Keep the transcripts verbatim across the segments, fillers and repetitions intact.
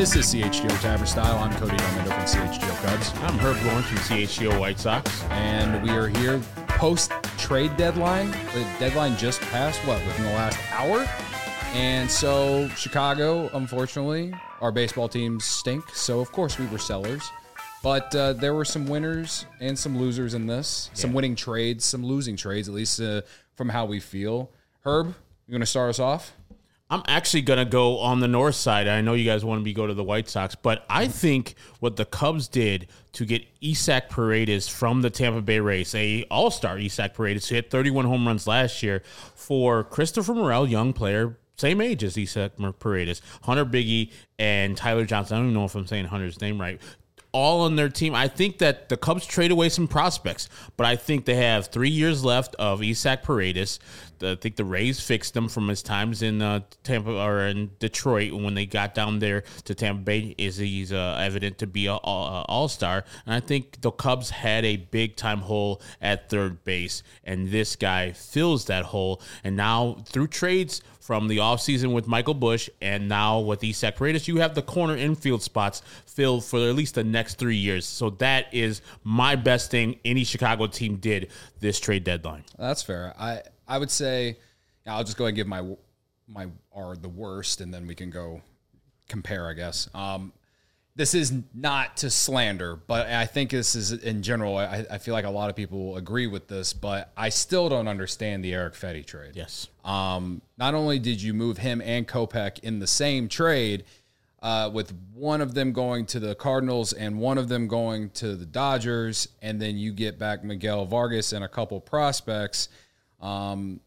This is C H G O Tavern Style. I'm Cody Delmendo from C H G O Cubs. I'm Herb Lawrence from C H G O White Sox. And we are here post-trade deadline. The deadline just passed, what, within the last hour? And so Chicago, unfortunately, our baseball teams stink. So, of course, we were sellers. But uh, there were some winners and some losers in this. Yeah. Some winning trades, some losing trades, at least uh, from how we feel. Herb, you going to start us off? I'm actually going to go on the north side. I know you guys want me to go to the White Sox, but I think what the Cubs did to get Isaac Paredes from the Tampa Bay Rays, a all-star Isaac Paredes, who hit thirty-one home runs last year, for Christopher Morel, young player, same age as Isaac Paredes, Hunter Biggie, and Tyler Johnson. I don't even know if I'm saying Hunter's name right. All on their team. I think that the Cubs trade away some prospects, but I think they have three years left of Isaac Paredes. I think the Rays fixed them from his times in uh, Tampa or in Detroit when they got down there to Tampa Bay. Is he's uh, evident to be an all-star, and I think the Cubs had a big-time hole at third base, and this guy fills that hole. And now through trades from the offseason with Michael Busch and now with Isaac Paredes, you have the corner infield spots filled for at least the next three years. So that is my best thing any Chicago team did this trade deadline. That's fair. I I would say, I'll just go ahead and give my my are the worst, and then we can go compare, I guess. Um, this is not to slander, but I think this is in general. I, I feel like a lot of people agree with this, but I still don't understand the Erick Fedde trade. Yes. Um, not only did you move him and Kopech in the same trade, uh, with one of them going to the Cardinals and one of them going to the Dodgers, and then you get back Miguel Vargas and a couple prospects. Um,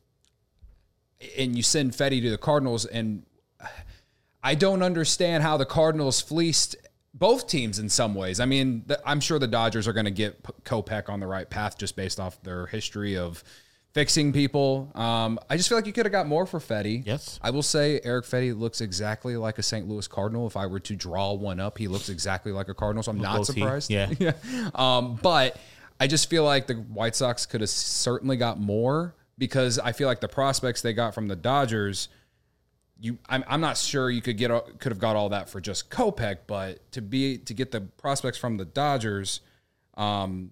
and you send Fedde to the Cardinals, and I don't understand how the Cardinals fleeced both teams in some ways. I mean, the, I'm sure the Dodgers are going to get Kopech on the right path just based off their history of fixing people. Um, I just feel like you could have got more for Fedde. Yes. I will say Erick Fedde looks exactly like a Saint Louis Cardinal. If I were to draw one up, he looks exactly like a Cardinal, so I'm not surprised. Yeah. yeah. Um, but I just feel like the White Sox could have certainly got more, because I feel like the prospects they got from the Dodgers, you I'm, I'm not sure you could get could have got all that for just Kopech, but to be to get the prospects from the Dodgers, um,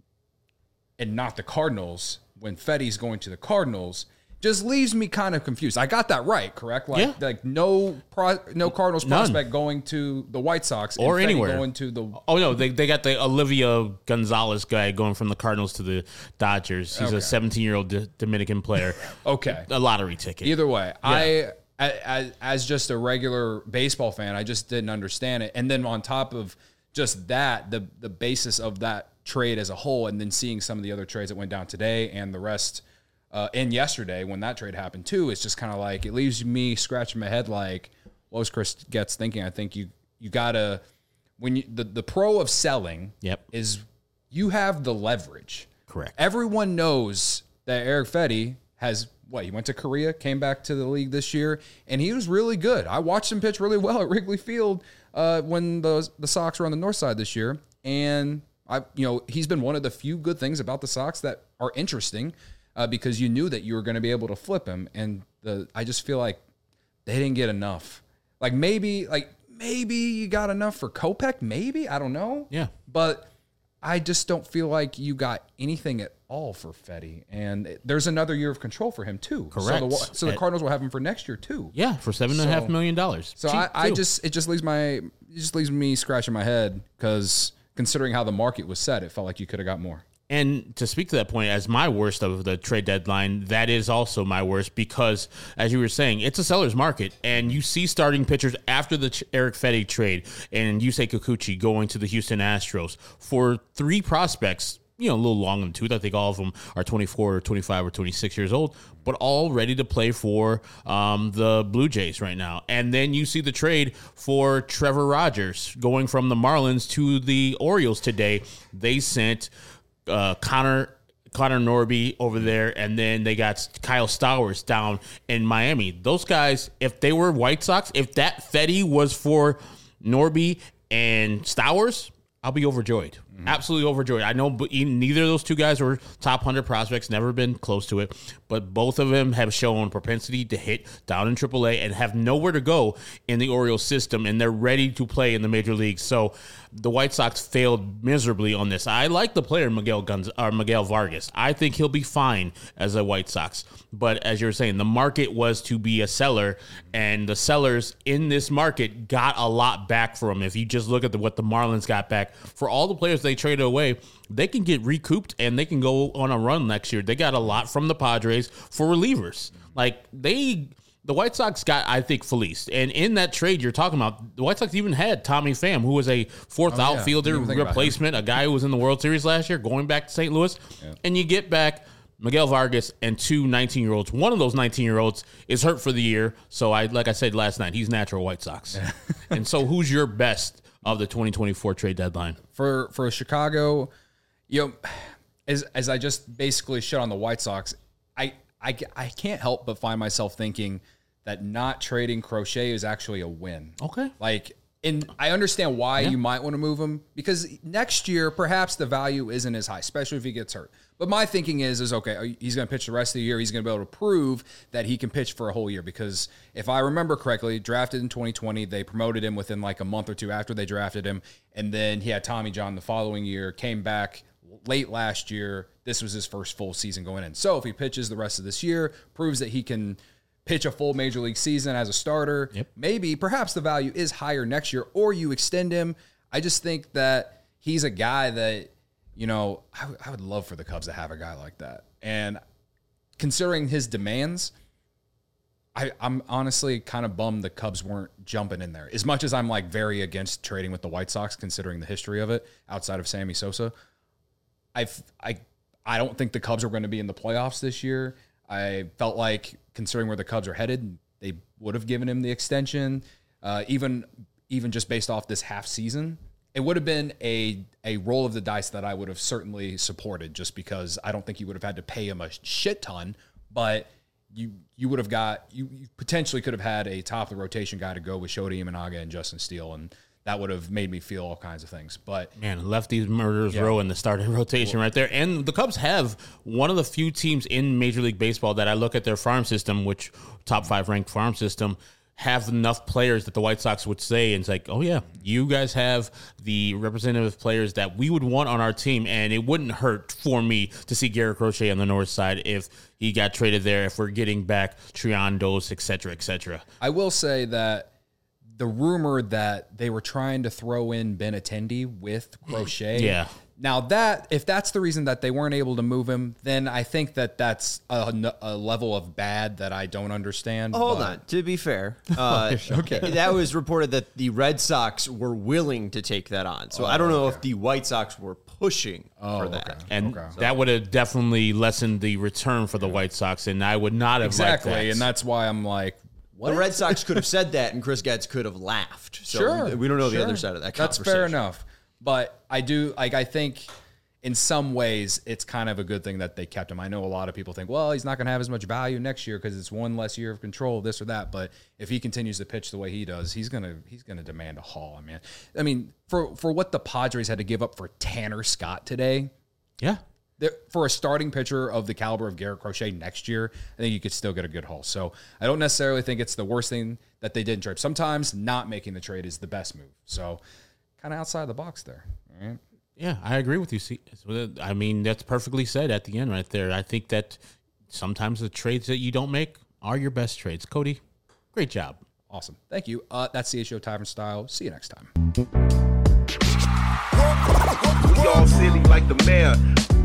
and not the Cardinals when Fedde's going to the Cardinals, just leaves me kind of confused. I got that right, correct? Like, yeah. like no pro, no Cardinals None. prospect going to the White Sox or and anywhere going to the. Oh no, they they got the Olivia Gonzalez guy going from the Cardinals to the Dodgers. He's okay. a seventeen-year-old D- Dominican player. Okay, a lottery ticket. Either way, yeah. I. As, as just a regular baseball fan, I just didn't understand it. And then on top of just that, the the basis of that trade as a whole, and then seeing some of the other trades that went down today and the rest uh, and yesterday when that trade happened too, it's just kind of like, it leaves me scratching my head like, what was Chris Getz thinking? I think you you gotta when you the, the pro of selling yep. is you have the leverage. Correct. Everyone knows that Erick Fedde has. What, he went to Korea, came back to the league this year, and he was really good. I watched him pitch really well at Wrigley Field uh, when the the Sox were on the north side this year. And I, you know, he's been one of the few good things about the Sox that are interesting uh, because you knew that you were going to be able to flip him. And the I just feel like they didn't get enough. Like maybe, like maybe you got enough for Kopech. Maybe, I don't know. Yeah, but I just don't feel like you got anything at all for Fedde, and there's another year of control for him too. Correct. So the, so the Cardinals will have him for next year too. Yeah, for seven and a half million dollars. So I, I just it just leaves my it just leaves me scratching my head, because considering how the market was set, it felt like you could have got more. And to speak to that point, as my worst of the trade deadline, that is also my worst, because, as you were saying, it's a seller's market, and you see starting pitchers after the Erick Fedde trade and Yusei Kikuchi going to the Houston Astros for three prospects, you know, a little long in the tooth. I think all of them are twenty-four or twenty-five or twenty-six years old, but all ready to play for um, the Blue Jays right now. And then you see the trade for Trevor Rogers going from the Marlins to the Orioles today. They sent uh, Connor Connor Norby over there, and then they got Kyle Stowers down in Miami. Those guys, if they were White Sox, if that Fedde was for Norby and Stowers, I'll be overjoyed. Mm-hmm. Absolutely overjoyed. I know but neither of those two guys were top one hundred prospects, never been close to it, but both of them have shown propensity to hit down in triple A and have nowhere to go in the Orioles system, and they're ready to play in the major leagues. So the White Sox failed miserably on this. I like the player Miguel Gonz- or Miguel Vargas. I think he'll be fine as a White Sox. But as you were saying, the market was to be a seller, and the sellers in this market got a lot back for him. If you just look at the, what the Marlins got back for all the players they traded away, they can get recouped and they can go on a run next year. They got a lot from the Padres for relievers. Like they... The White Sox got, I think, fleeced. And in that trade you're talking about, the White Sox even had Tommy Pham, who was a fourth oh, yeah. outfielder replacement, a guy who was in the World Series last year, going back to Saint Louis. Yeah. And you get back Miguel Vargas and two nineteen-year-olds. One of those nineteen-year-olds is hurt for the year. So, I, like I said last night, he's natural White Sox. Yeah. And so who's your best of the twenty twenty-four trade deadline? For for Chicago, you know, as, as I just basically shit on the White Sox, I, I, I can't help but find myself thinking that not trading Crochet is actually a win. Okay. Like, and I understand why yeah. you might want to move him, because next year, perhaps the value isn't as high, especially if he gets hurt. But my thinking is, is okay, he's going to pitch the rest of the year. He's going to be able to prove that he can pitch for a whole year, because if I remember correctly, drafted in twenty twenty, they promoted him within like a month or two after they drafted him. And then he had Tommy John the following year, came back late last year. This was his first full season going in. So if he pitches the rest of this year, proves that he can pitch a full major league season as a starter, yep. maybe, perhaps the value is higher next year, or you extend him. I just think that he's a guy that, you know, I, w- I would love for the Cubs to have a guy like that. And considering his demands, I, I'm honestly kind of bummed the Cubs weren't jumping in there. As much as I'm like very against trading with the White Sox, considering the history of it outside of Sammy Sosa, I've, I, I don't think the Cubs are going to be in the playoffs this year. I felt like, considering where the Cubs are headed, they would have given him the extension, uh, even even just based off this half season. It would have been a a roll of the dice that I would have certainly supported, just because I don't think you would have had to pay him a shit ton, but you you would have got you, you potentially could have had a top of the rotation guy to go with Shota Imanaga and Justin Steele, and that would have made me feel all kinds of things. But man, left these murderers yeah. row in the starting rotation right there. And the Cubs have one of the few teams in Major League Baseball that I look at their farm system, which top five ranked farm system, have enough players that the White Sox would say, and it's like, oh yeah, you guys have the representative players that we would want on our team, and it wouldn't hurt for me to see Garrett Crochet on the north side if he got traded there, if we're getting back Triandos, et cetera, et cetera. I will say that the rumor that they were trying to throw in Benintendi with Crochet. Yeah. Now that, if that's the reason that they weren't able to move him, then I think that that's a, a level of bad that I don't understand. Hold but. on. To be fair, uh, okay. that was reported that the Red Sox were willing to take that on. So oh, I don't know okay. if the White Sox were pushing oh, for that. Okay. And okay. that would have definitely lessened the return for the White Sox, and I would not have exactly, liked that. And that's why I'm like, what? The Red Sox could have said that, and Chris Getz could have laughed. So sure, we don't know sure. the other side of that That's conversation. fair enough. But I do, like, I think in some ways it's kind of a good thing that they kept him. I know a lot of people think, well, he's not going to have as much value next year because it's one less year of control, this or that. But if he continues to pitch the way he does, he's gonna he's gonna demand a haul, man. I mean, for for what the Padres had to give up for Tanner Scott today, yeah. For a starting pitcher of the caliber of Garrett Crochet next year, I think you could still get a good haul. So I don't necessarily think it's the worst thing that they didn't trade. Sometimes not making the trade is the best move. So kind of outside the box there. All right. Yeah, I agree with you. See, I mean, that's perfectly said at the end right there. I think that sometimes the trades that you don't make are your best trades. Cody, great job. Awesome. Thank you. Uh, that's C H O Tavern Style. See you next time. We all silly like the mayor.